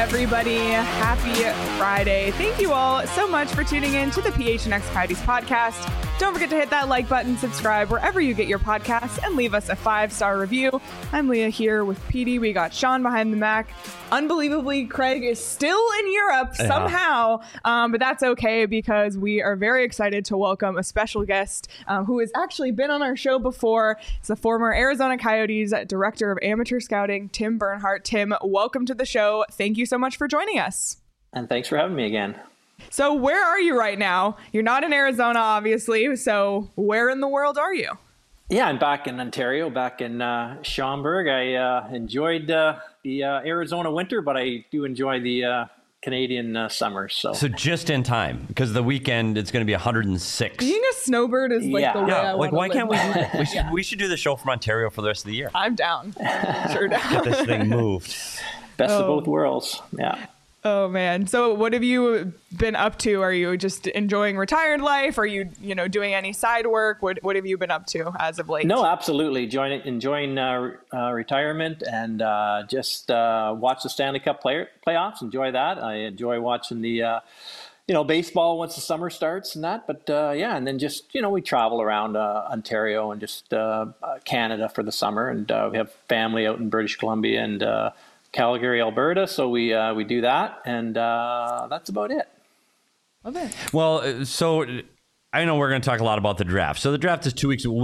everybody. Happy Friday. Thank you all so much for tuning in to the PHNX Coyotes podcast. Don't forget to hit that like button, subscribe wherever you get your podcasts, and leave us a 5-star review. I'm Leah here with PD. We got Sean behind the Mac. Unbelievably, Craig is still in Europe somehow, but that's okay because we are very excited to welcome a special guest who has actually been on our show before. It's the former Arizona Coyotes Director of Amateur Scouting, Tim Bernhardt. Tim, welcome to the show. Thank you so much for joining us. And thanks for having me again. So where are you right now? You're not in Arizona, obviously. So where in the world are you? Yeah, I'm back in Ontario, back in Schaumburg. I enjoyed the Arizona winter, but I do enjoy the Canadian summer. So just in time, because the weekend it's going to be 106. Being a snowbird is like the way I want to why can't we do live. that? We should do the show from Ontario for the rest of the year. I'm down. Sure down. Get this thing moved. Best of both worlds. Yeah. Oh man. So what have you been up to? Are you just enjoying retired life? Are you doing any side work? What have you been up to as of late? No, absolutely. Enjoying retirement and just watch the Stanley Cup playoffs. Enjoy that. I enjoy watching the baseball once the summer starts and that. But and then just we travel around Ontario and just Canada for the summer, and we have family out in British Columbia and Calgary, Alberta, so we do that, and that's about it. Okay. Well, so I know we're going to talk a lot about the draft. So the draft is 2 weeks. Will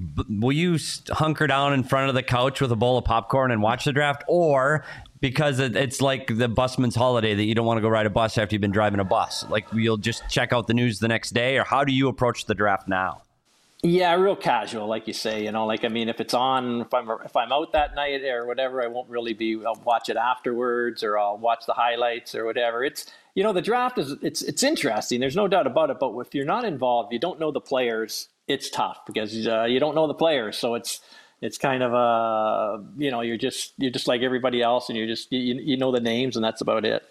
you hunker down in front of the couch with a bowl of popcorn and watch the draft, or because it's like the busman's holiday that you don't want to go ride a bus after you've been driving a bus, like you'll just check out the news the next day, or how do you approach the draft now? Yeah, real casual, like you say. If it's on, if I'm out that night or whatever, I won't really I'll watch it afterwards, or I'll watch the highlights or whatever. It's the draft it's interesting. There's no doubt about it. But if you're not involved, you don't know the players. It's tough because you don't know the players. So it's kind of you're just like everybody else, and you know the names, and that's about it.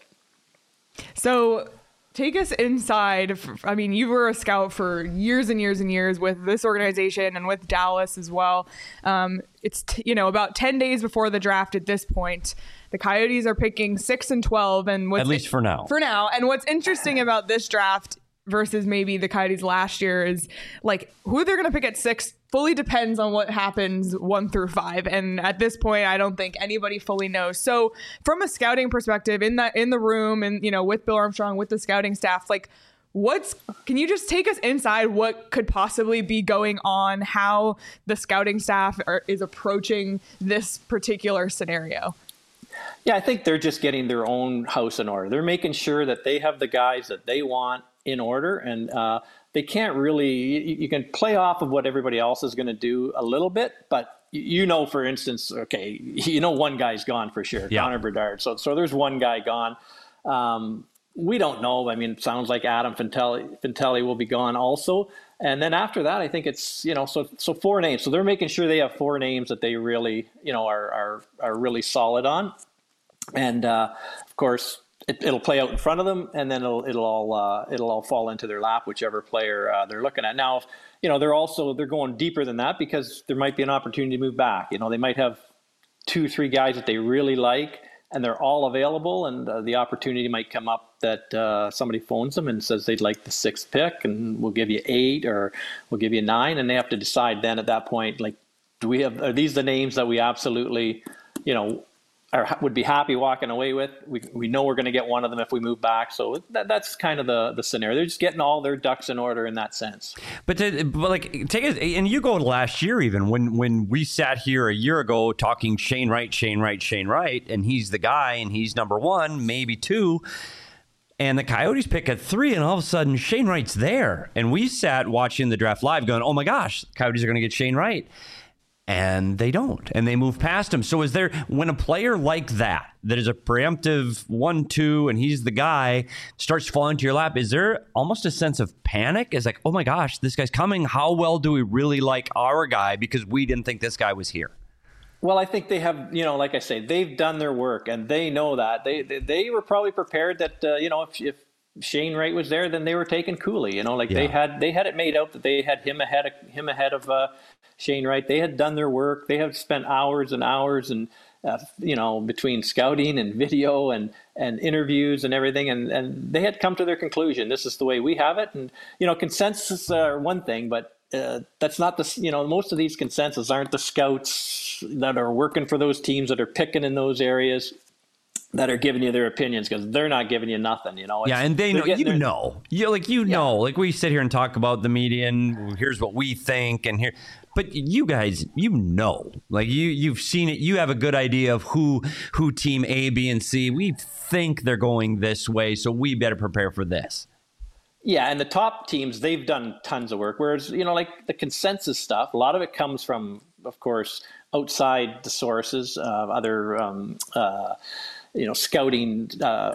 So take us inside. I mean, you were a scout for years and years and years with this organization and with Dallas as well. It's about 10 days before the draft at this point. The Coyotes are picking 6 and 12, and at least for now. For now, and what's interesting about this draft versus maybe the Coyotes last year is like who they're going to pick at 6 fully depends on what happens 1 through 5. And at this point, I don't think anybody fully knows. So from a scouting perspective in the room and, with Bill Armstrong, with the scouting staff, like can you just take us inside what could possibly be going on, how the scouting staff is approaching this particular scenario? Yeah, I think they're just getting their own house in order. They're making sure that they have the guys that they want in order, and they can't really, you can play off of what everybody else is going to do a little bit, but for instance, okay, one guy's gone for sure, yeah. Connor Bedard. So there's one guy gone. We don't know. I mean, it sounds like Adam Fantilli will be gone also. And then after that, I think it's, so 4 names. So they're making sure they have 4 names that they really, are really solid on. And of course, it'll play out in front of them, and then it'll all fall into their lap, whichever player they're looking at. Now, they're going deeper than that because there might be an opportunity to move back. They might have 2-3 guys that they really like, and they're all available, and the opportunity might come up that somebody phones them and says they'd like the 6th pick, and we'll give you 8 or we'll give you 9, and they have to decide then at that point, like, are these the names that we absolutely, would be happy walking away with? We know we're going to get one of them if we move back. So that's kind of the scenario. They're just getting all their ducks in order in that sense. But take it, and you go last year even when we sat here a year ago talking Shane Wright, and he's the guy, and he's number 1, maybe 2. And the Coyotes pick at 3, and all of a sudden Shane Wright's there. And we sat watching the draft live going, oh my gosh, the Coyotes are going to get Shane Wright. And they don't, and they move past him. So when a player like that is a preemptive 1-2 and he's the guy, starts falling to your lap, is there almost a sense of panic? It's like, oh my gosh, this guy's coming. How well do we really like our guy because we didn't think this guy was here? Well, I think they have, like I say, they've done their work, and they know that. They were probably prepared that, if Shane Wright was there, then they were taking Cooley. They had it made out that they had him ahead of Shane Wright. They had done their work. They have spent hours and hours and between scouting and video and interviews and everything. And they had come to their conclusion. This is the way we have it. And, consensus are one thing, but that's not most of these consensus aren't the scouts that are working for those teams that are picking in those areas that are giving you their opinions, because they're not giving you nothing, Yeah, and they know, like we sit here and talk about the media and here's what we think and here. But you guys, like you've seen it. You have a good idea of who team A, B, and C. We think they're going this way, so we better prepare for this. Yeah, and the top teams, they've done tons of work. Whereas, like the consensus stuff, a lot of it comes from, of course, outside the sources, other, scouting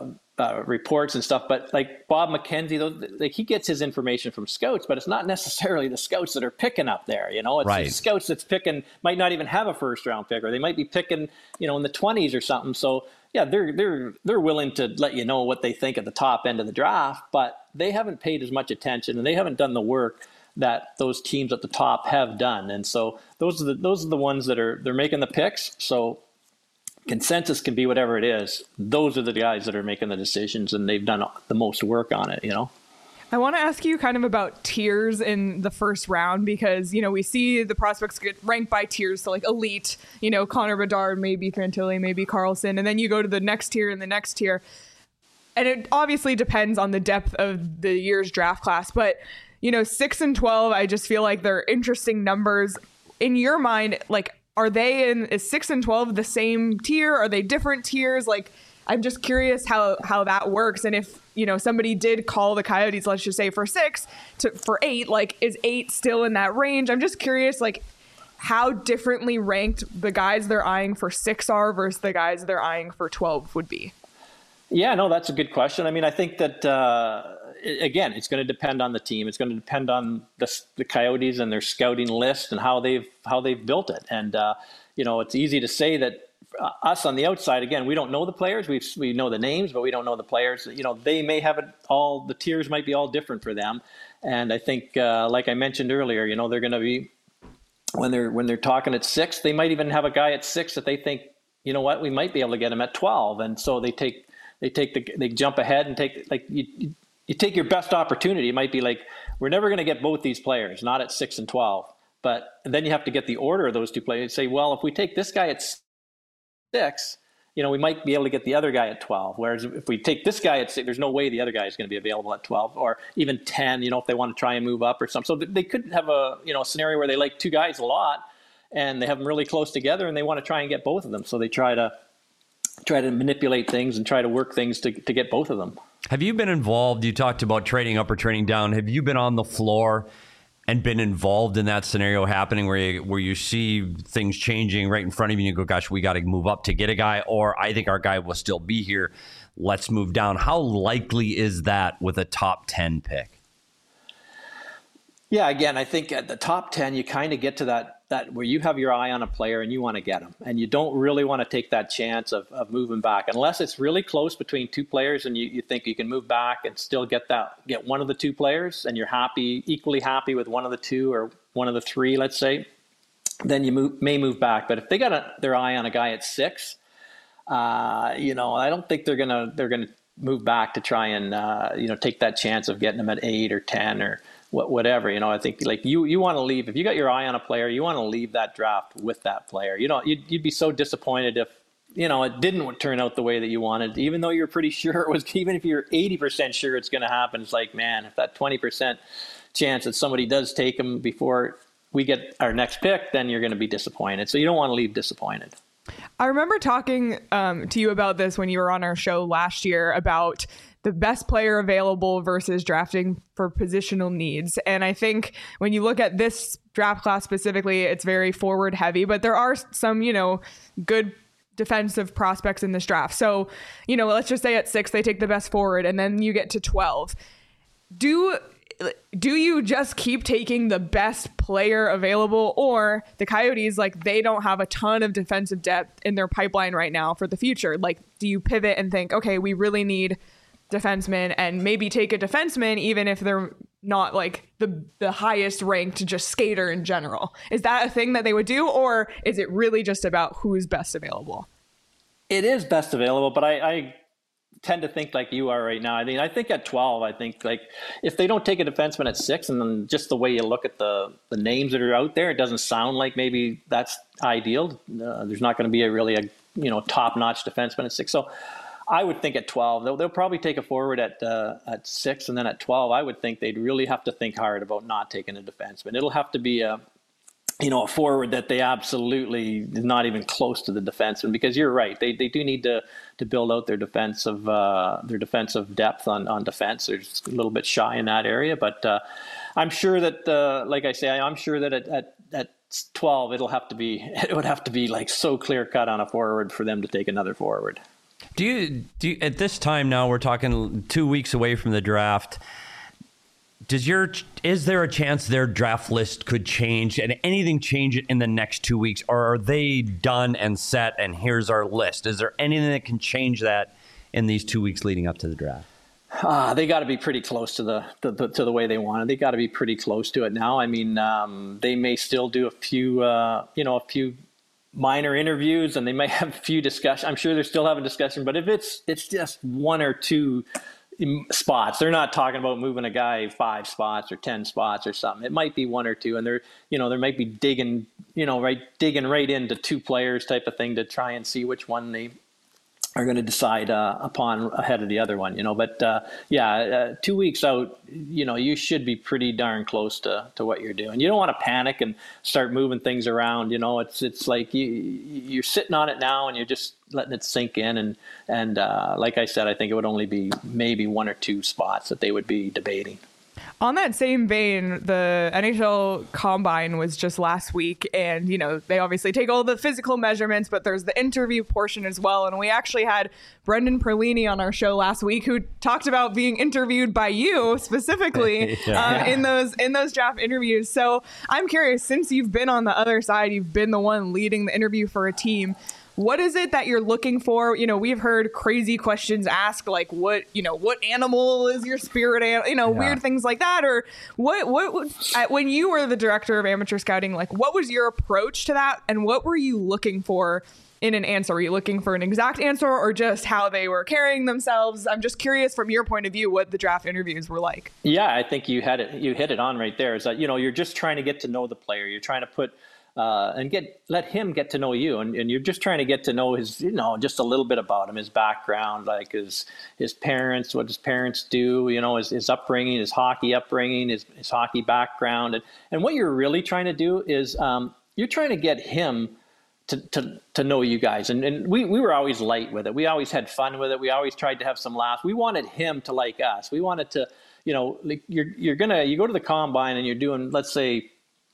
reports and stuff. But like Bob McKenzie, he gets his information from scouts, but it's not necessarily the scouts that are picking up there. It's right. The scouts that's picking might not even have a first round pick, or they might be picking, in the 20s or something. So yeah, they're willing to let you know what they think at the top end of the draft, but they haven't paid as much attention and they haven't done the work that those teams at the top have done. And so those are the ones that they're making the picks. So consensus can be whatever it is. Those are the guys that are making the decisions, and they've done the most work on it, I want to ask you kind of about tiers in the first round, because, we see the prospects get ranked by tiers. So like elite, Connor Bedard, maybe Fantilli, maybe Carlson. And then you go to the next tier and the next tier. And it obviously depends on the depth of the year's draft class. But, 6 and 12, I just feel like they're interesting numbers. In your mind, like, is 6 and 12 the same tier? Are they different tiers? Like, I'm just curious how that works. And if, somebody did call the Coyotes, let's just say for 6 for 8, like, is 8 still in that range? I'm just curious, like, how differently ranked the guys they're eyeing for 6 are versus the guys they're eyeing for 12 would be. Yeah, no, that's a good question. I mean, I think that, again, it's going to depend on the team. It's going to depend on the Coyotes and their scouting list and how they've built it. And, it's easy to say that us on the outside, again, we don't know the players. We know the names, but we don't know the players. They may have it all, the tiers might be all different for them. And I think, like I mentioned earlier, they're going to be, when they're talking at 6, they might even have a guy at 6 that they think, we might be able to get him at 12. And so they jump ahead and take, like, you take your best opportunity. It might be like, we're never going to get both these players, not at 6 and 12. But then you have to get the order of those two players. Say, well, if we take this guy at 6, we might be able to get the other guy at 12. Whereas if we take this guy at 6, there's no way the other guy is going to be available at 12 or even 10, if they want to try and move up or something. So they could have a scenario where they like two guys a lot and they have them really close together and they want to try and get both of them. So they try to manipulate things and try to work things to get both of them. Have you been involved? You talked about trading up or trading down. Have you been on the floor and been involved in that scenario happening where you see things changing right in front of you and you go, gosh, we got to move up to get a guy, or I think our guy will still be here, let's move down? How likely is that with a top 10 pick? Yeah, again, I think at the top 10, you kind of get to that where you have your eye on a player and you want to get him. And you don't really want to take that chance of moving back unless it's really close between two players and you think you can move back and still get one of the two players and you're equally happy with one of the two or one of the three, let's say, then you may move back. But if they got their eye on a guy at 6, I don't think they're gonna move back to try and take that chance of getting him at 8 or 10 or whatever. I think like you want to leave, if you got your eye on a player, you want to leave that draft with that player. You'd be so disappointed if it didn't turn out the way that you wanted, even though you're pretty sure it was. Even if you're 80% sure it's going to happen, it's like, man, if that 20% chance that somebody does take him before we get our next pick, then you're going to be disappointed. So you don't want to leave disappointed. I remember talking to you about this when you were on our show last year about the best player available versus drafting for positional needs. And I think when you look at this draft class specifically, it's very forward heavy, but there are some, good defensive prospects in this draft. So, let's just say at 6, they take the best forward and then you get to 12. Do you just keep taking the best player available, or the Coyotes, like, they don't have a ton of defensive depth in their pipeline right now for the future? Like, do you pivot and think, okay, we really need defensemen and maybe take a defenseman even if they're not like the highest ranked just skater in general? Is that a thing that they would do, or is it really just about who's best available? It is best available, but I tend to think like you are right now. I mean, I think at 12, I think like if they don't take a defenseman at 6, and then just the way you look at the names that are out there, it doesn't sound like maybe that's ideal. There's not going to be a top-notch defenseman at 6. So I would think at 12, they'll probably take a forward at 6, and then at 12, I would think they'd really have to think hard about not taking a defenseman. It'll have to be a forward that they absolutely is not even close to the defenseman, because you're right. They do need to build out their defensive depth on defense. They're just a little bit shy in that area, but I'm sure that, like I say, I'm sure that at 12, it would have to be like so clear cut on a forward for them to take another forward. Do you at this time now, we're talking 2 weeks away from the draft, is there a chance their draft list could change and anything change it in the next 2 weeks, or are they done and set and here's our list? Is there anything that can change that in these 2 weeks leading up to the draft? They got to be pretty close to the way they want it. They got to be pretty close to it now. I mean, they may still do a few minor interviews, and they may have a few discussions. I'm sure they're still having discussion, but if it's just 1 or 2 spots, they're not talking about moving a guy 5 spots or 10 spots or something. It might be 1 or 2, and they might be digging right into 2 players type of thing to try and see which one they are going to decide upon ahead of the other one, But 2 weeks out, you should be pretty darn close to what you're doing. You don't want to panic and start moving things around. It's like you're sitting on it now and you're just letting it sink in. And like I said, I think it would only be maybe 1 or 2 spots that they would be debating. On that same vein, the NHL Combine was just last week, and, they obviously take all the physical measurements, but there's the interview portion as well. And we actually had Brendan Perlini on our show last week, who talked about being interviewed by you specifically in those draft interviews. So I'm curious, since you've been on the other side, you've been the one leading the interview for a team, what is it that you're looking for? We've heard crazy questions asked, like what animal is your spirit animal? Weird things like that. Or what when you were the director of amateur scouting, like what was your approach to that? And what were you looking for in an answer? Were you looking for an exact answer or just how they were carrying themselves? I'm just curious from your point of view, what the draft interviews were like. Yeah, I think you hit it on right there, is that, you're just trying to get to know the player. You're trying to put let him get to know you, and you're just trying to get to know his, just a little bit about him, his background, like his parents, what his parents do, his upbringing, his hockey upbringing, his hockey background, and what you're really trying to do is you're trying to get him to know you guys, and we were always light with it. We always had fun with it. We always tried to have some laughs. We wanted him to like us. We wanted to, like you go to the combine and you're doing, let's say,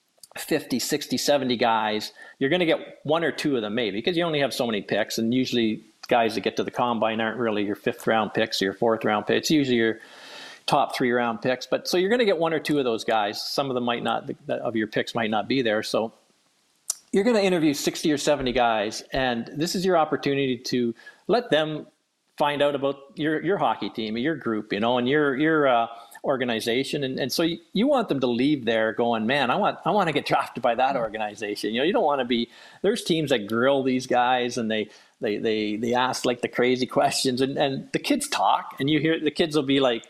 50, 60, 70 guys, you're going to get 1 or 2 of them maybe, because you only have so many picks, and usually guys that get to the combine aren't really your 5th round picks or your 4th round picks. It's usually your top 3 round picks, but so you're going to get 1 or 2 of those guys. Some of them of your picks might not be there, so you're going to interview 60 or 70 guys, and this is your opportunity to let them find out about your hockey team, your group, and your organization, and so you want them to leave there going, man, I want to get drafted by that organization. You don't want to be. There's teams that grill these guys, and they ask like the crazy questions, and the kids talk, and you hear the kids will be like,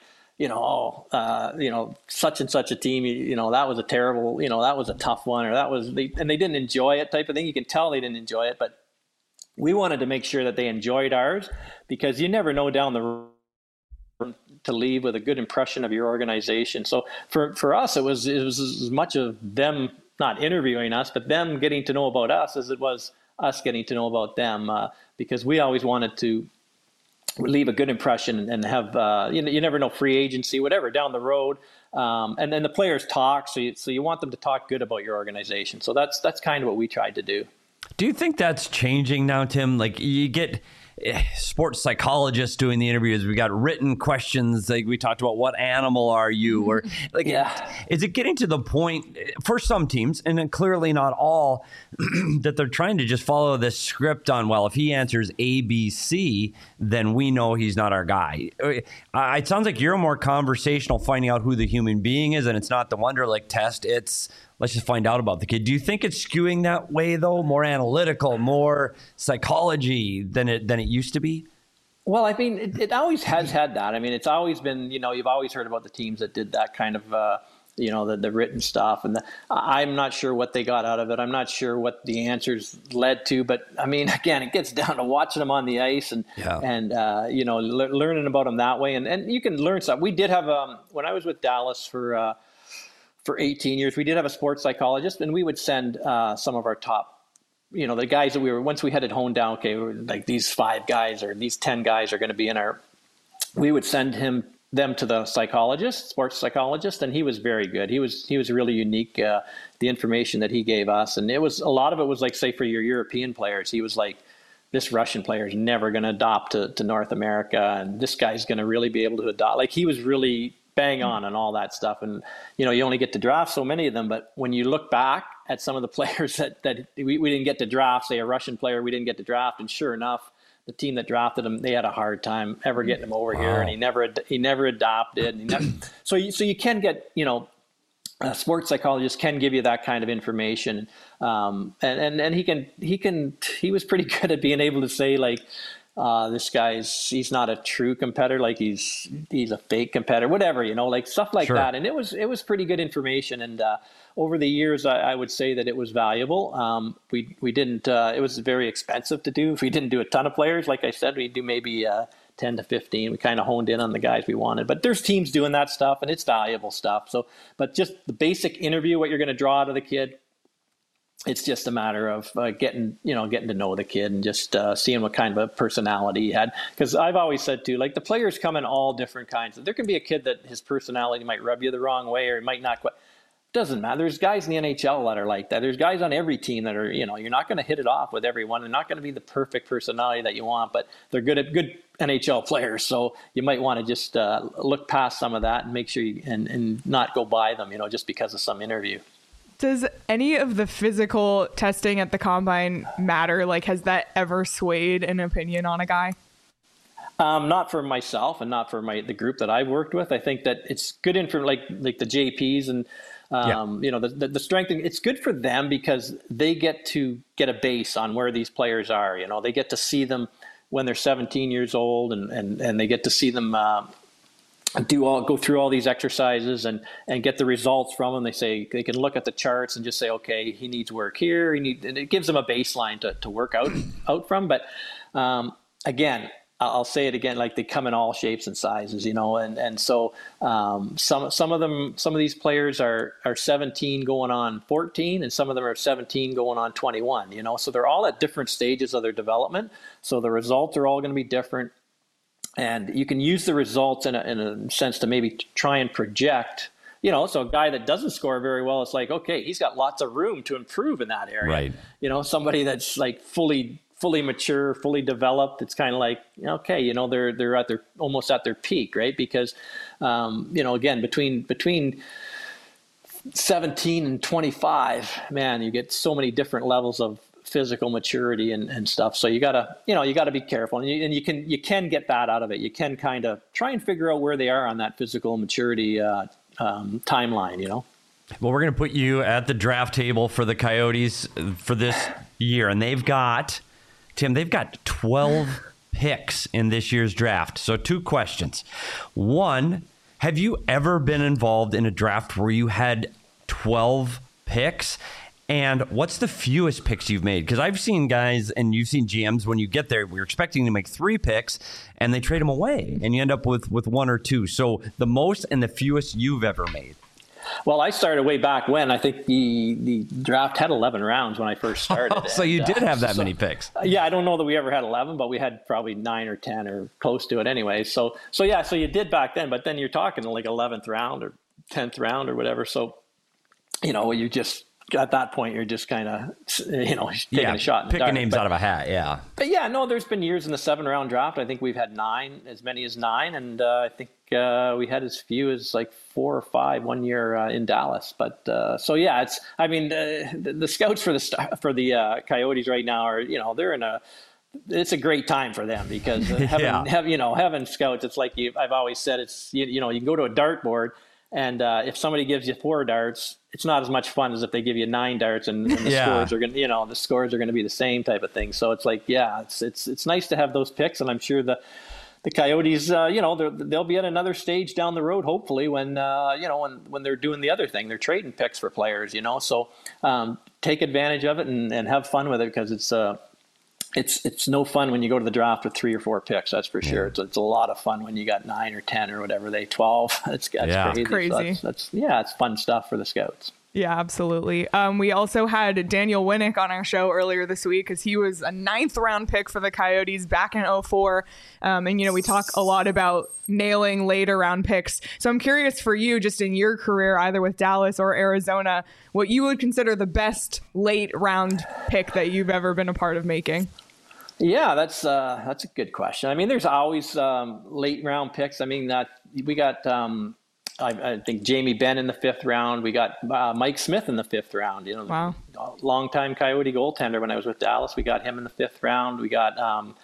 such and such a team, that was a terrible, that was a tough one, or and they didn't enjoy it type of thing. You can tell they didn't enjoy it, but we wanted to make sure that they enjoyed ours, because you never know down the road to leave with a good impression of your organization. So for us, it was as much of them not interviewing us, but them getting to know about us as it was us getting to know about them, because we always wanted to leave a good impression and have, you never know, free agency, whatever, down the road. And then the players talk, so you want them to talk good about your organization. So that's kind of what we tried to do. Do you think that's changing now, Tim? Like you get sports psychologists doing the interviews. We got written questions. Like we talked about, what animal are you? Or like, is it getting to the point for some teams, and then clearly not all, that they're trying to just follow this script on, well, if he answers A, B, C, then we know he's not our guy. It sounds like you're more conversational, finding out who the human being is, and it's not the Wonderlic test. It's let's just find out about the kid. Do you think it's skewing that way, though? More analytical, more psychology than it used to be? Well, I mean, it always has had that. I mean, it's always been, you've always heard about the teams that did that kind of, the written stuff. And I'm not sure what they got out of it. I'm not sure what the answers led to. But, I mean, again, it gets down to watching them on the ice and learning about them that way. And you can learn stuff. We did have, when I was with Dallas for 18 years, we did have a sports psychologist, and we would send some of our top, the guys that once we had it honed down, okay, we were like these 5 guys or these 10 guys are going to be we would send them to the sports psychologist, and he was very good. He was really unique, the information that he gave us. And a lot of it was like, say, for your European players, he was like, this Russian player is never going to adopt to North America, and this guy's going to really be able to adopt. Like, he was really bang on all that stuff. And, you only get to draft so many of them. But when you look back at some of the players that we didn't get to draft, say a Russian player we didn't get to draft, and sure enough, the team that drafted him, they had a hard time ever getting him over here, and he never adopted. So you can get, a sports psychologist can give you that kind of information, and he was pretty good at being able to say, like, this he's not a true competitor, like he's a fake competitor, whatever, like stuff like that. And it was pretty good information. And over the years, I would say that it was valuable. We didn't, it was very expensive to do. If we didn't do a ton of players, like I said, we'd do maybe 10 to 15. We kind of honed in on the guys we wanted. But there's teams doing that stuff, and it's valuable stuff. So, but just the basic interview, what you're going to draw out of the kid, it's just a matter of getting to know the kid and just seeing what kind of a personality he had. Because I've always said too, like, the players come in all different kinds. There can be a kid that his personality might rub you the wrong way, or it might not quite. Doesn't matter. There's guys in the NHL that are like that. There's guys on every team that are, you're not going to hit it off with everyone. They're not going to be the perfect personality that you want, but they're good NHL players. So you might want to just look past some of that and make sure and not go by them, just because of some interview. Does any of the physical testing at the combine matter? Like, has that ever swayed an opinion on a guy? Not for myself and not for the group that I've worked with. I think that it's good like the JPs and, the strength. It's good for them because they get to get a base on where these players are. They get to see them when they're 17 years old, and they get to see them go through all these exercises and get the results from them. They can look at the charts and just say, okay, he needs work here. And it gives them a baseline to work out from. But again, I'll say it again, like, they come in all shapes and sizes, and so some of these players are 17 going on 14, and some of them are 17 going on 21, so they're all at different stages of their development. So the results are all going to be different. And you can use the results in a sense to maybe try and project, so a guy that doesn't score very well, it's like, okay, he's got lots of room to improve in that area. Right. Somebody that's like fully mature, fully developed, it's kind of like, okay, they're almost at their peak, right? Because, again, between 17 and 25, man, you get so many different levels of physical maturity and stuff. So you gotta be careful, and you can get that out of it. You can kind of try and figure out where they are on that physical maturity timeline. Well, we're going to put you at the draft table for the Coyotes for this year, and they've got 12 picks in this year's draft. So 2 questions. One, have you ever been involved in a draft where you had 12 picks? And what's the fewest picks you've made? Because I've seen guys, and you've seen GMs, when you get there, we're expecting to make 3 picks, and they trade them away, and you end up with 1 or 2. So the most and the fewest you've ever made. Well, I started way back when. I think the draft had 11 rounds when I first started. So you did have that many picks. Yeah, I don't know that we ever had 11, but we had probably 9 or 10 or close to it anyway. So you did back then, but then you're talking like 11th round or 10th round or whatever. So, you just, at that point, you're just kind of, taking a shot in the dark. Picking names out of a hat, yeah. But yeah, no, there's been years in the 7-round draft. I think we've had as many as 9, and I think we had as few as like 4 or 5 one year in Dallas. But so yeah, the scouts for the Coyotes right now are, it's a great time for them because having scouts, it's like I've always said, it's you can go to a dartboard And if somebody gives you 4 darts, it's not as much fun as if they give you 9 darts and the scores are going to, the scores are going to be the same type of thing. So it's like, it's nice to have those picks. And I'm sure the Coyotes, they'll be at another stage down the road, hopefully, when they're doing the other thing. They're trading picks for players, So take advantage of it and have fun with it, because it's no fun when you go to the draft with 3 or 4 picks. That's for sure. It's a lot of fun when you got 9 or 10 or whatever 12. That's crazy. So that's it's fun stuff for the scouts. Yeah, absolutely. We also had Daniel Winnick on our show earlier this week, because he was a 9th round pick for the Coyotes back in 2004. And, we talk a lot about nailing later round picks. So I'm curious for you, just in your career, either with Dallas or Arizona, what you would consider the best late round pick that you've ever been a part of making. Yeah, that's a good question. I mean, there's always late round picks. I mean, we got I think Jamie Benn in the 5th round. We got Mike Smith in the 5th round. Wow. Longtime Coyote goaltender when I was with Dallas. We got him in the 5th round. We got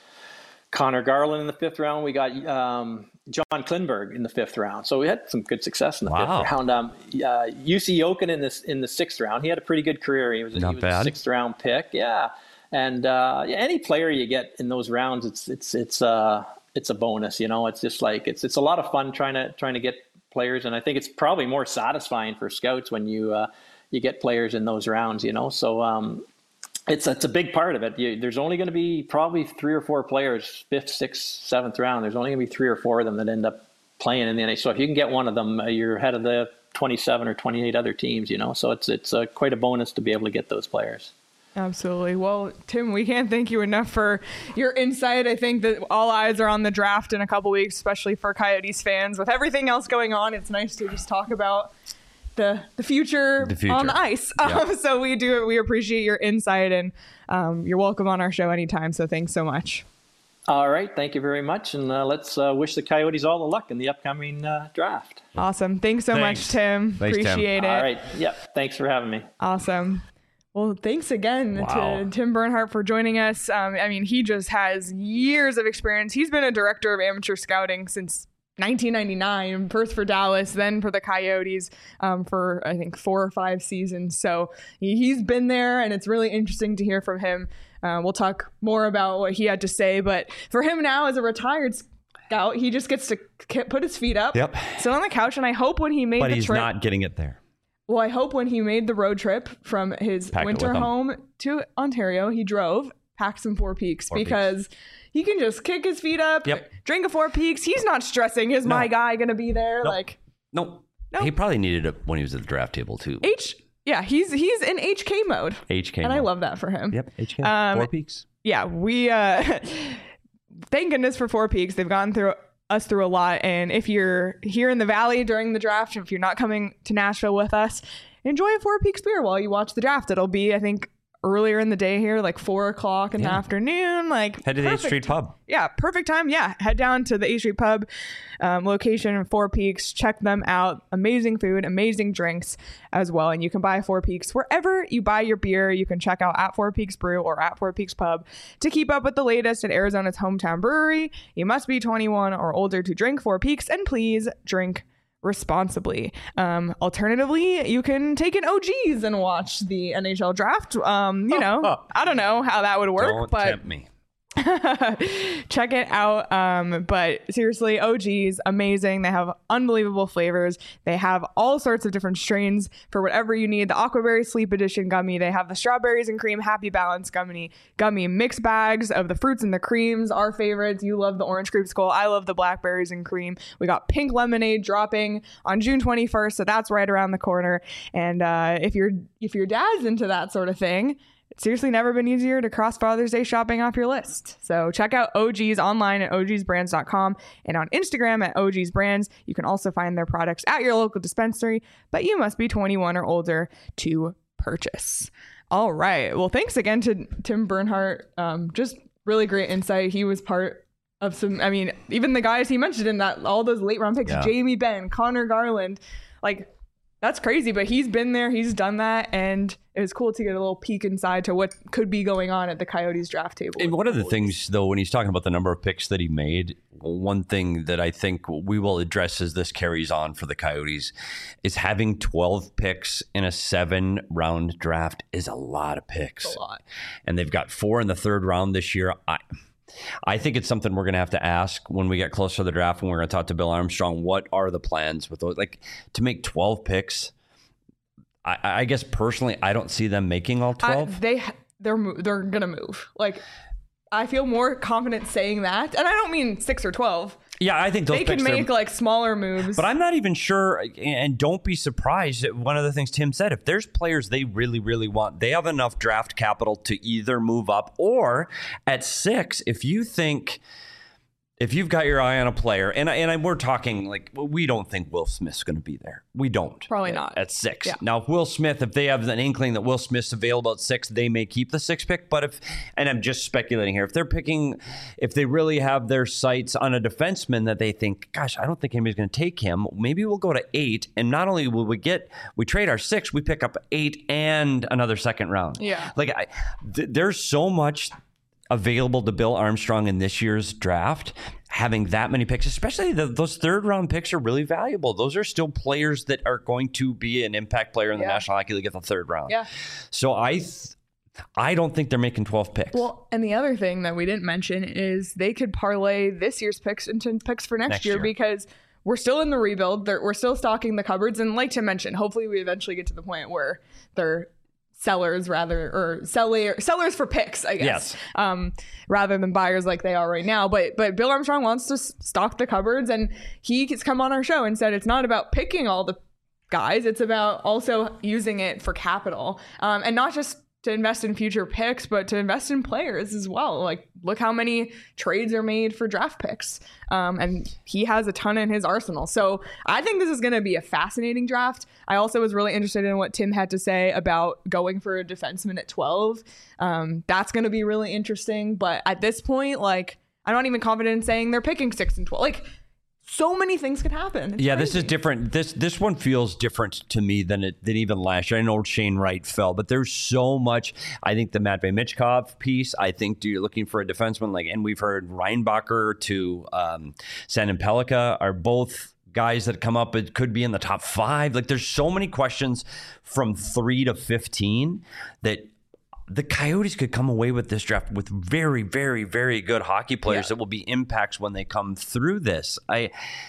Connor Garland in the 5th round. We got John Klingberg in the 5th round. So we had some good success in the 5th round. Jussi Jokinen in the 6th round. He had a pretty good career. He was a 6th round pick. Yeah. And any player you get in those rounds, it's a bonus. It's just like it's a lot of fun trying to get players, and I think it's probably more satisfying for scouts when you get players in those rounds. So it's a big part of it. There's only going to be probably 3 or 4 players, 5th, 6th, 7th round. There's only going to be 3 or 4 of them that end up playing in the NHL. So if you can get one of them, you're ahead of the 27 or 28 other teams. So it's quite a bonus to be able to get those players. Absolutely. Well, Tim, we can't thank you enough for your insight. I think that all eyes are on the draft in a couple weeks, especially for Coyotes fans. With everything else going on, it's nice to just talk about the future on the ice. Yep. So we appreciate your insight, and you're welcome on our show anytime. So thanks so much. All right. Thank you very much. And let's wish the Coyotes all the luck in the upcoming draft. Awesome. Thanks so much, Tim. Appreciate it. All right. Yep. Thanks for having me. Awesome. Well, thanks again to Tim Bernhardt for joining us. He just has years of experience. He's been a director of amateur scouting since 1999, first for Dallas, then for the Coyotes for, I think, 4 or 5 seasons. So he's been there, and it's really interesting to hear from him. We'll talk more about what he had to say. But for him now, as a retired scout, he just gets to put his feet up, sit on the couch, and I hope when he made the trip... But he's not getting it there. Well, I hope when he made the road trip from his winter home to Ontario, he packed some Four Peaks, because he can just kick his feet up, drink a Four Peaks. He's not stressing. Is my guy going to be there? Nope. He probably needed it when he was at the draft table too. He's in HK mode. I love that for him. Yep, HK. Four Peaks. Yeah, we thank goodness for Four Peaks. They've gone through us through a lot, and if you're here in the Valley during the draft, if you're not coming to Nashville with us, enjoy a Four Peaks beer while you watch the draft. It'll be, I think, earlier in the day here, like 4:00 in the afternoon. Head to the 8th Street Pub. Yeah, perfect time. Yeah, head down to the 8th Street Pub location in Four Peaks. Check them out. Amazing food, amazing drinks as well. And you can buy Four Peaks wherever you buy your beer. You can check out at Four Peaks Brew or at Four Peaks Pub to keep up with the latest at Arizona's hometown brewery. You must be 21 or older to drink Four Peaks, and please drink responsibly. Alternatively, you can take an OGs and watch the NHL draft. I don't know how that would work, but tempt me. Check it out. But seriously, OGs, amazing. They have unbelievable flavors. They have all sorts of different strains for whatever you need. The Aquaberry Sleep Edition gummy. They have the Strawberries and Cream Happy Balance gummy mix bags of the fruits and the creams, our favorites. You love the Orange Creamsicle. I love the Blackberries and Cream. We got Pink Lemonade dropping on June 21st, so that's right around the corner. And if your dad's into that sort of thing, it's seriously never been easier to cross Father's Day shopping off your list. So check out OGs online at ogsbrands.com and on Instagram at ogsbrands. You can also find their products at your local dispensary, but you must be 21 or older to purchase. All right. Well, thanks again to Tim Bernhardt. Just really great insight. He was part of even the guys he mentioned in that, all those late round picks, Jamie Benn, Connor Garland, That's crazy, but he's been there, he's done that, and it was cool to get a little peek inside to what could be going on at the Coyotes draft table. And one of the things, though, when he's talking about the number of picks that he made, one thing that I think we will address as this carries on for the Coyotes is having 12 picks in a 7-round draft is a lot of picks. It's a lot. And they've got 4 in the 3rd round this year. I think it's something we're going to have to ask when we get closer to the draft, when we're going to talk to Bill Armstrong. What are the plans with those? Like, to make 12 picks, I guess personally, I don't see them making all 12. They're going to move. Like, I feel more confident saying that. And I don't mean 6 or 12. Yeah, I think those they can make like smaller moves. But I'm not even sure, and don't be surprised at one of the things Tim said. If there's players they really, really want, they have enough draft capital to either move up, or at 6, if you've got your eye on a player, and we're talking like, we don't think Will Smith's going to be there. We don't. Probably not. At 6. Yeah. Now, if Will Smith, if they have an inkling that Will Smith's available at 6, they may keep the 6th pick. But and I'm just speculating here, if they really have their sights on a defenseman that they think, gosh, I don't think anybody's going to take him, maybe we'll go to 8. And not only will we trade our 6, we pick up 8 and another 2nd round. Yeah. Like, there's so much available to Bill Armstrong in this year's draft. Having that many picks, especially those 3rd round picks, are really valuable. Those are still players that are going to be an impact player in the National Hockey League at the 3rd round. Yeah. So I don't think they're making 12 picks. Well, and the other thing that we didn't mention is they could parlay this year's picks into picks for next year, because we're still in the rebuild. We're still stocking the cupboards. And like Tim mentioned, hopefully we eventually get to the point where they're sellers for picks, I guess. Yes. Rather than buyers like they are right now. But Bill Armstrong wants to stock the cupboards, and he's come on our show and said it's not about picking all the guys, it's about also using it for capital, and not just to invest in future picks, but to invest in players as well. Like, look how many trades are made for draft picks. And he has a ton in his arsenal. So I think this is going to be a fascinating draft. I also was really interested in what Tim had to say about going for a defenseman at 12. That's going to be really interesting. But at this point, like, I'm not even confident in saying they're picking 6 and 12. Like, so many things could happen. It's crazy. This is different. This one feels different to me than even last year. I know Shane Wright fell, but there's so much. I think the Matvei Michkov piece, I think you're looking for a defenseman, and we've heard Reinbacher to Sandin Pellikka are both guys that come up. It could be in the top 5. Like, there's so many questions from 3 to 15 that the Coyotes could come away with this draft with very, very, very good hockey players that will be impacts when they come through this. I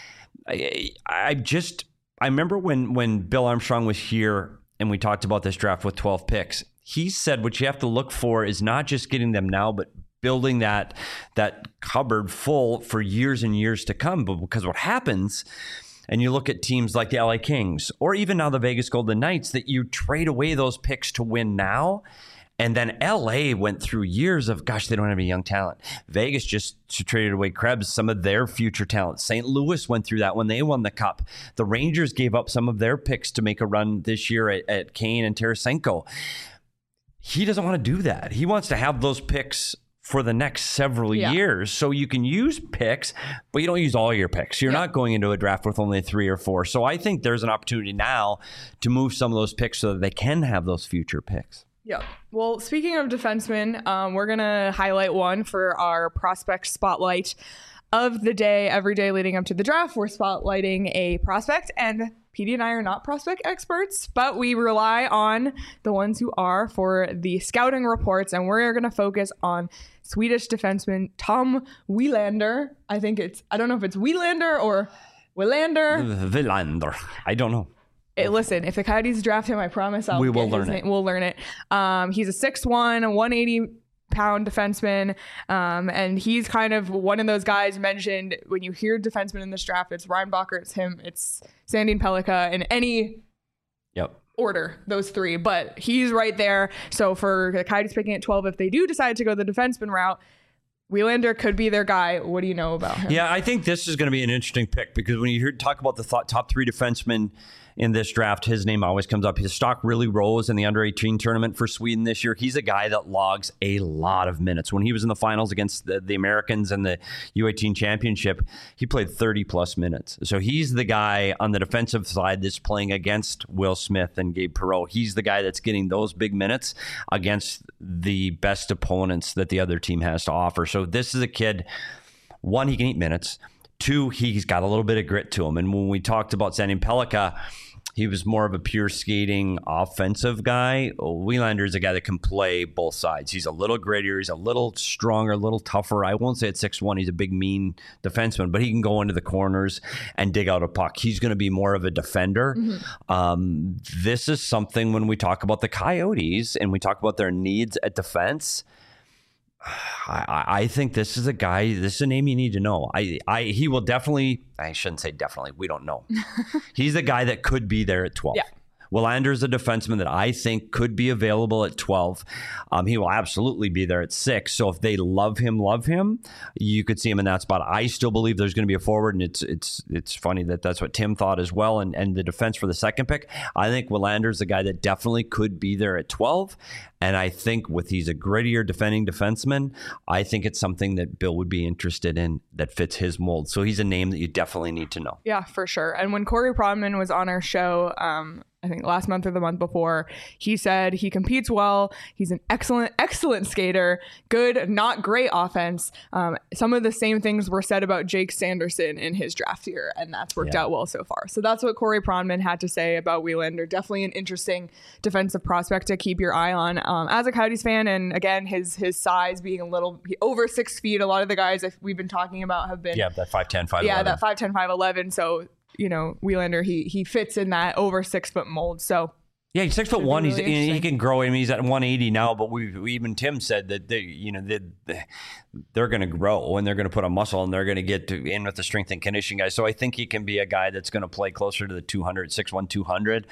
remember when Bill Armstrong was here and we talked about this draft with 12 picks, he said what you have to look for is not just getting them now, but building that cupboard full for years and years to come. But because what happens, and you look at teams like the LA Kings or even now the Vegas Golden Knights, that you trade away those picks to win now. And then LA went through years of, gosh, they don't have any young talent. Vegas just traded away Krebs, some of their future talent. St. Louis went through that when they won the Cup. The Rangers gave up some of their picks to make a run this year at Kane and Tarasenko. He doesn't want to do that. He wants to have those picks for the next several years. So you can use picks, but you don't use all your picks. You're not going into a draft with only 3 or 4. So I think there's an opportunity now to move some of those picks so that they can have those future picks. Yeah. Well, speaking of defensemen, we're going to highlight one for our prospect spotlight of the day. Every day leading up to the draft, we're spotlighting a prospect, and PD and I are not prospect experts, but we rely on the ones who are for the scouting reports, and we're going to focus on Swedish defenseman Tom Willander. I don't know if it's Willander or Willander. Willander. I don't know. Listen, if the Coyotes draft him, I promise we will learn it. We'll learn it. He's a 6'1", 180-pound defenseman, and he's kind of one of those guys mentioned when you hear defenseman in this draft. It's Reinbacher, it's him, it's Sandin Pellikka, in any order, those 3. But he's right there. So for the Coyotes picking at 12, if they do decide to go the defenseman route, Willander could be their guy. What do you know about him? Yeah, I think this is going to be an interesting pick, because when you talk about the top 3 defensemen in this draft, his name always comes up. His stock really rose in the under-18 tournament for Sweden this year. He's a guy that logs a lot of minutes. When he was in the finals against the Americans and the U18 championship, he played 30-plus minutes. So he's the guy on the defensive side that's playing against Will Smith and Gabe Perreault. He's the guy that's getting those big minutes against the best opponents that the other team has to offer. So this is a kid, one, he can eat minutes. Two, he's got a little bit of grit to him. And when we talked about Sandin Pellikka, he was more of a pure skating offensive guy. Wilander is a guy that can play both sides. He's a little grittier. He's a little stronger, a little tougher. I won't say at 6'1", he's a big, mean defenseman, but he can go into the corners and dig out a puck. He's going to be more of a defender. This is something when we talk about the Coyotes and we talk about their needs at defense, I think this is a guy, this is a name you need to know. He will definitely, I shouldn't say definitely, we don't know. He's a guy that could be there at 12. Yeah. Wilander is a defenseman that I think could be available at 12. He will absolutely be there at 6. So if they love him, you could see him in that spot. I still believe there's going to be a forward, and it's funny that that's what Tim thought as well. And the defense for the second pick, I think Wilander is the guy that definitely could be there at 12. And I think he's a grittier defending defenseman, I think it's something that Bill would be interested in that fits his mold. So he's a name that you definitely need to know. Yeah, for sure. And when Corey Pronman was on our show, I think last month or the month before, he said he competes well. He's an excellent skater, good, not great offense. Some of the same things were said about Jake Sanderson in his draft year, and that's worked out well so far. So that's what Corey Pronman had to say about Wilander. Definitely an interesting defensive prospect to keep your eye on. As a Coyotes fan, and again, his size being a little over 6 feet, a lot of the guys that we've been talking about have been... Yeah, that 5'10", 5'11". Yeah, that 5'10", 5'11". So... Wilander, he fits in that over 6 foot mold. So yeah, he's 6'1". Really he can grow. I mean, he's at 180 now, but even Tim said that they're going to grow and they're going to put on muscle and they're going to get in with the strength and conditioning guys. So I think he can be a guy that's going to play closer to the 200, 6'1", 200.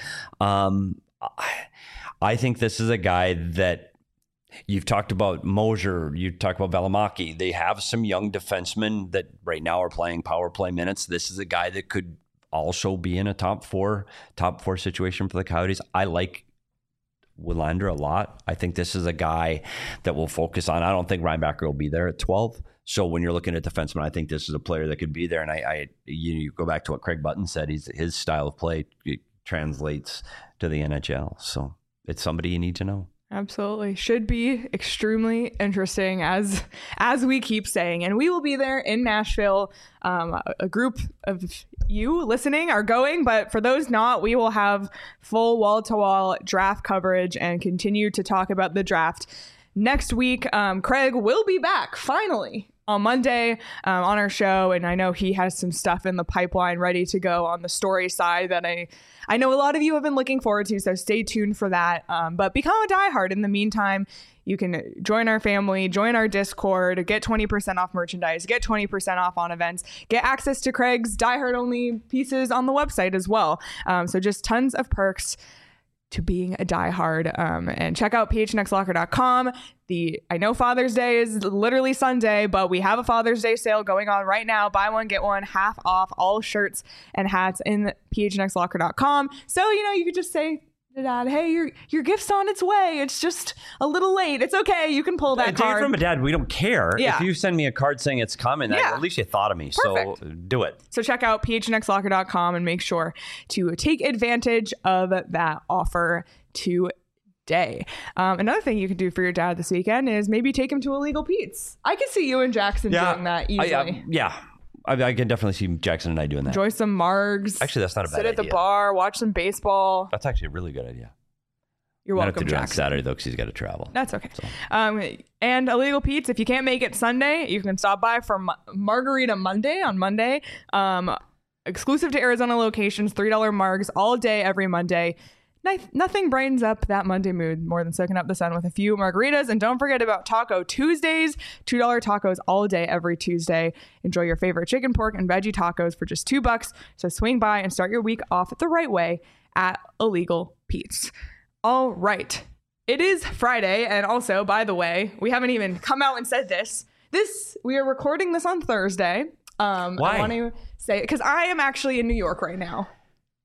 I think this is a guy that you've talked about Mosier, you talked about Valimaki. They have some young defensemen that right now are playing power play minutes. This is a guy that could also be in a top four situation for the Coyotes. I like Wilander a lot. I think this is a guy that will focus on. I don't think Reinbacher will be there at 12. So when you're looking at defensemen, I think this is a player that could be there. And you go back to what Craig Button said. His style of play translates to the NHL. So it's somebody you need to know. Absolutely. Should be extremely interesting as we keep saying. And we will be there in Nashville. A group of you listening are going, but for those not, we will have full wall-to-wall draft coverage and continue to talk about the draft. Next week, Craig will be back finally on Monday on our show, and I know he has some stuff in the pipeline ready to go on the story side that I know a lot of you have been looking forward to, so stay tuned for that. But become a diehard. In the meantime, you can join our family, join our Discord, get 20% off merchandise, get 20% off on events, get access to Craig's diehard only pieces on the website as well. So just tons of perks to being a diehard, and check out phnxlocker.com. I know Father's Day is literally Sunday, but we have a Father's Day sale going on right now. Buy one, get one, half off all shirts and hats in phnxlocker.com. So, you could just say to Dad, hey, your gift's on its way. It's just a little late. It's okay. You can pull that card. From a dad, we don't care. Yeah. If you send me a card saying it's coming, at least you thought of me. Perfect. So do it. So check out phnxlocker.com and make sure to take advantage of that offer today. Another thing you can do for your dad this weekend is maybe take him to Illegal Pete's. I could see you and Jackson doing that easily. I can definitely see Jackson and I doing that. Enjoy some margs. Actually, that's not a bad idea. Sit at the bar, watch some baseball. That's actually a really good idea. You're welcome, Jackson. Jackson. Saturday, though, because he's got to travel. That's okay. So. And Illegal Pete's, if you can't make it Sunday, you can stop by for Margarita Monday on Monday. Exclusive to Arizona locations, $3 margs all day, every Monday. Nothing brightens up that Monday mood more than soaking up the sun with a few margaritas. And don't forget about Taco Tuesdays, $2 tacos all day, every Tuesday. Enjoy your favorite chicken, pork, and veggie tacos for just $2. So swing by and start your week off the right way at Illegal Pete's. All right. It is Friday. And also, by the way, we haven't even come out and said this. We are recording this on Thursday. Why? I want to say, because I am actually in New York right now.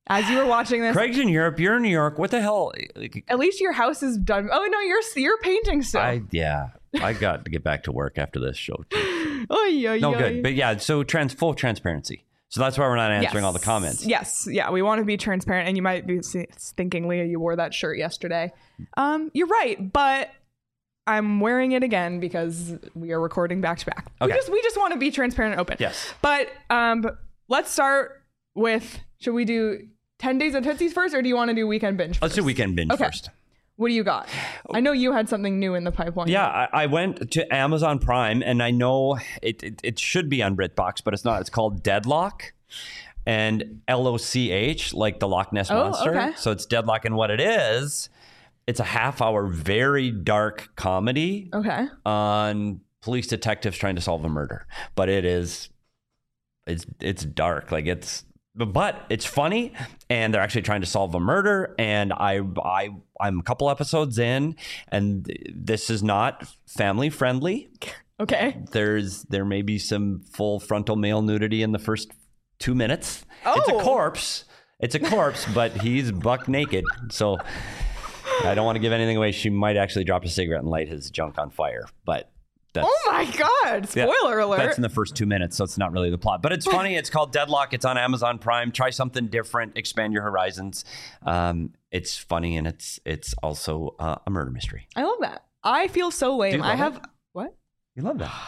As you were watching this, Craig's in Europe. You're in New York. What the hell? at least your house is done. Oh no, you're painting still. I got to get back to work after this show too. Oy. Good. But yeah, so full transparency. So that's why we're not answering all the comments. Yes. Yeah. We want to be transparent. And you might be thinking, Leah, you wore that shirt yesterday. You're right. But I'm wearing it again because we are recording back to back. Okay. We just want to be transparent and open. Yes. But let's start with, should we do 10 days of Tootsies first, or do you want to do weekend binge first? Let's do weekend binge first. What do you got? I know you had something new in the pipeline. Yeah, I went to Amazon Prime, and I know it should be on BritBox, but it's not. It's called Deadlock, and LOCH, like the Loch Ness Monster. Okay. So it's Deadlock, and what it is, it's a half-hour, very dark comedy on police detectives trying to solve a murder. But it's dark. Like but it's funny, and they're actually trying to solve a murder. And I'm a couple episodes in, and this is not family friendly. Okay. There may be some full frontal male nudity in the first 2 minutes. Oh. It's a corpse, but he's buck naked. So I don't want to give anything away. She might actually drop a cigarette and light his junk on fire, but. Oh my God. Spoiler alert. That's in the first 2 minutes, so it's not really the plot. But it's funny. It's called Deadlock. It's on Amazon Prime. Try something different. Expand your horizons. It's funny, and it's also a murder mystery. I love that. I feel so lame. What? You love that.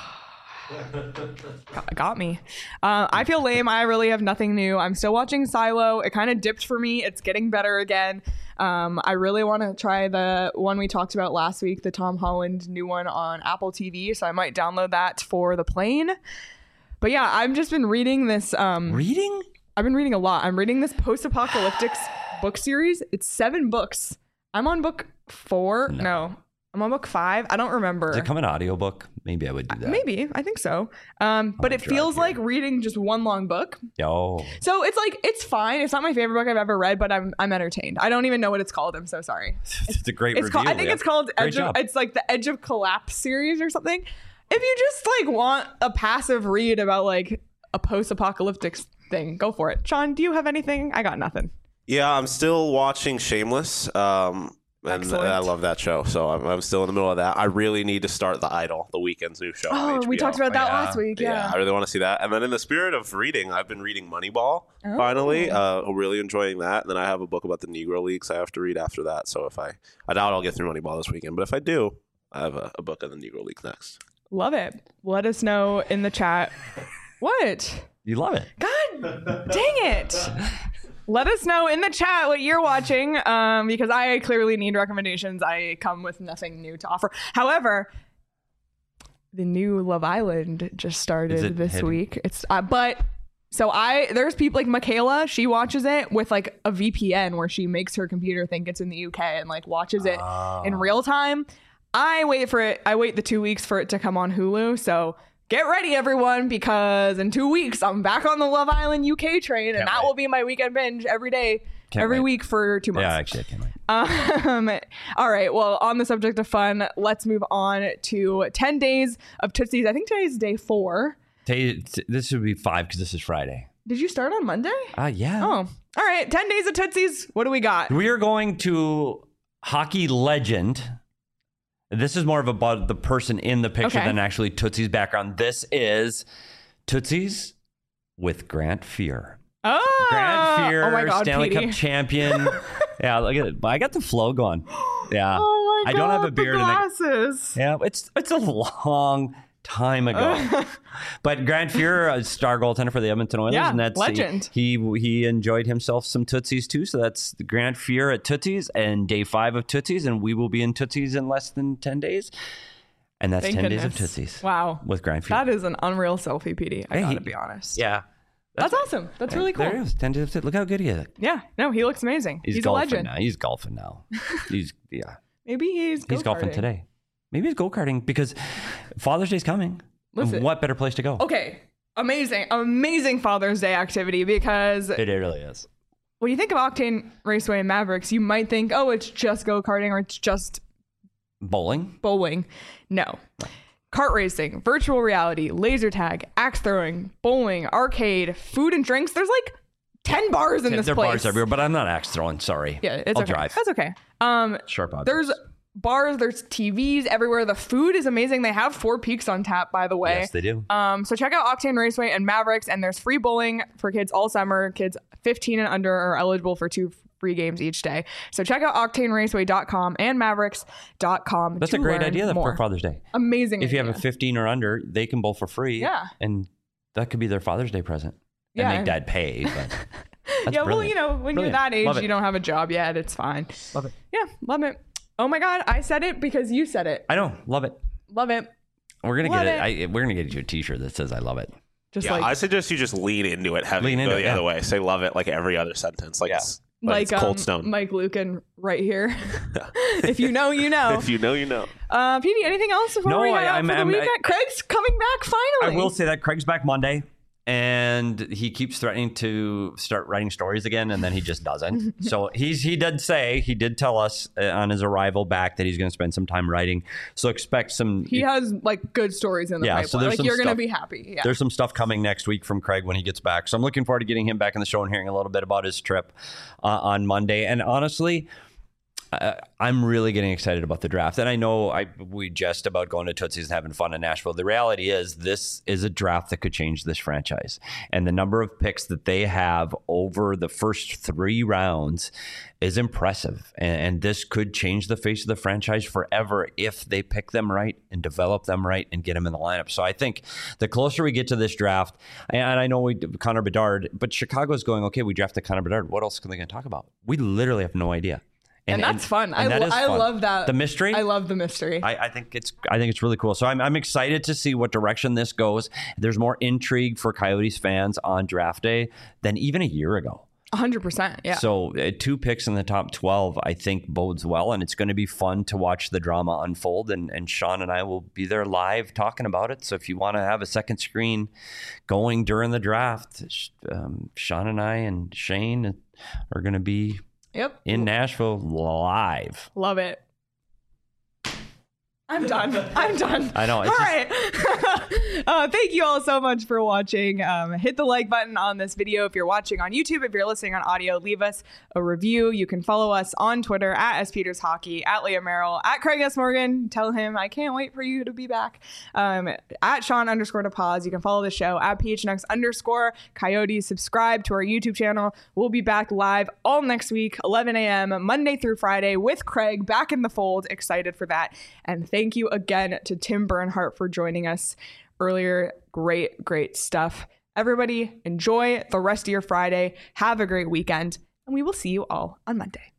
Got me. I feel lame. I really have nothing new. I'm still watching Silo. It kind of dipped for me. It's getting better again. I really want to try the one we talked about last week, the Tom Holland new one on Apple TV. So I might download that for the plane. But yeah, I've just been reading this. Reading? I've been reading a lot. I'm reading this post-apocalyptic book series. It's 7 books. I'm on book 4. No. I'm on book 5. I don't remember. Does it come in audiobook? Maybe I would do that. Maybe. I think so. But it feels like reading just one long book. Oh. So it's fine. It's not my favorite book I've ever read, but I'm entertained. I don't even know what it's called. I'm so sorry. It's a great review. I think it's called it's like the Edge of Collapse series or something. If you just like want a passive read about like a post-apocalyptic thing, go for it. Sean, do you have anything? I got nothing. Yeah, I'm still watching Shameless. And Excellent. I love that show, so I'm still in the middle of that. I really need to start The Idol, The Weeknd's new show. Oh, we talked about that last week. Yeah, I really want to see that. And then in the spirit of reading, I've been reading Moneyball. Finally, really enjoying that. And then I have a book about the Negro Leagues I have to read after that. So if I doubt I'll get through Moneyball this weekend, but if I do, I have a book on the Negro Leagues next. Love it. Let us know in the chat. What? You love it. God dang it. Let us know in the chat what you're watching, because I clearly need recommendations. I come with nothing new to offer. However, the new Love Island just started this week. It's there's people like Michaela. She watches it with like a VPN where she makes her computer think it's in the UK and like watches it in real time. I wait the 2 weeks for it to come on Hulu. So get ready, everyone, because in 2 weeks, I'm back on the Love Island UK train, and that will be my weekend binge every day, every week for 2 months. Yeah, actually, I can't wait. All right. Well, on the subject of fun, let's move on to 10 days of Tootsies. I think today's day 4. This should be 5 because this is Friday. Did you start on Monday? Yeah. Oh, all right. 10 days of Tootsies. What do we got? We are going to hockey legend. This is more of about the person in the picture than actually Tootsie's background. This is Tootsies with Grant Fuhr. Oh, Grant Fuhr, oh my God, Stanley Petey. Cup champion. Yeah, look at it. I got the flow going. Yeah. Oh my God, I don't have a beard. the glasses. Yeah, it's a long time ago. But Grant Fuhr, star goaltender for the Edmonton Oilers, Yeah, and that's legend. He enjoyed himself some Tootsies too. So that's Grant Fuhr at Tootsies and day 5 of Tootsies, and we will be in Tootsies in less than 10 days. And that's Thank 10 goodness. days of Tootsies. Wow. With Grant Fuhr. That is an unreal selfie, Petey. I gotta be honest. Yeah. That's awesome. That's really cool. There he is. 10 days of Tootsies. Look how good he is. Yeah. No, he looks amazing. He's a golfing legend. now. He's golfing now. Maybe he's golfing today. Maybe he's go-karting because Father's Day's coming. Listen. What better place to go? Okay. Amazing Father's Day activity, because It really is. when you think of Octane Raceway and Mavericks, you might think, oh, it's just go-karting or it's just Bowling? bowling. No. Kart racing, virtual reality, laser tag, axe throwing, bowling, arcade, food and drinks. There's like 10 bars in this There are place. bars everywhere, but I'm not axe throwing. Sorry. Yeah, it's I'll okay. drive. That's okay. Sharp objects. There's bars, there's TVs everywhere. The food is amazing. They have Four Peaks on tap, by the way. Yes, they do. So check out Octane Raceway and Mavericks, and there's free bowling for kids all summer. Kids 15 and under are eligible for 2 free games each day. So check out octaneraceway.com and mavericks.com. That's a great idea more. for Father's Day. Amazing. If you idea. have a 15 or under, they can bowl for free. Yeah. And that could be their Father's Day present. Yeah. And make dad pay. But that's yeah, brilliant. well, you know, when Brilliant. you're that age, Love it. you don't have a job yet. It's fine. Love it. Yeah, love it. Oh my God, I said it because you said it. I know. Love it. Love it. We're gonna Love get it. We're gonna get you a T-shirt that says "I love it." Just Yeah, like I suggest you just lean into it heavy. Lean into Go it, the other yeah. way. Say love it like every other sentence. Like, Yeah. it's Cold Stone. Mike Lucan right here. If you know, you know. If you know, you know. Petey, anything else before No, we head out for the weekend? Craig's coming back finally. I will say that Craig's back Monday, and he keeps threatening to start writing stories again, and then he just doesn't. So he did tell us on his arrival back that he's going to spend some time writing. So expect some. He has like good stories in the pipeline. So there's Like some you're going to stuff- be happy. Yeah. There's some stuff coming next week from Craig when he gets back. So I'm looking forward to getting him back in the show and hearing a little bit about his trip on Monday. And honestly, I'm really getting excited about the draft. And I know we jest about going to Tootsie's and having fun in Nashville. The reality is this is a draft that could change this franchise. And the number of picks that they have over the first 3 rounds is impressive. And this could change the face of the franchise forever if they pick them right and develop them right and get them in the lineup. So I think the closer we get to this draft, and I know Connor Bedard, but Chicago's going, okay, we drafted Connor Bedard. What else are they going to talk about? We literally have no idea. And that's fun. and that is I fun. love that. The mystery. I love the mystery. I think it's really cool. So I'm excited to see what direction this goes. There's more intrigue for Coyotes fans on draft day than even a year ago. 100%. Yeah. So 2 picks in the top 12, I think bodes well, and it's going to be fun to watch the drama unfold. And Sean and I will be there live talking about it. So if you want to have a second screen going during the draft, Sean and I and Shane are going to be in Nashville live. Love it. I'm done. I know. All right. Thank you all so much for watching. Hit the like button on this video if you're watching on YouTube. If you're listening on audio, leave us a review. You can follow us on Twitter at @SPetersHockey, at Leah Merrill, at Craig S. Morgan. Tell him I can't wait for you to be back. At Sean_DePaz. You can follow the show at PHNX_ Coyotes. Subscribe to our YouTube channel. We'll be back live all next week, 11 a.m., Monday through Friday with Craig back in the fold. Excited for that. And thank you again to Tim Bernhardt for joining us earlier. Great stuff. Everybody, enjoy the rest of your Friday. Have a great weekend, and we will see you all on Monday.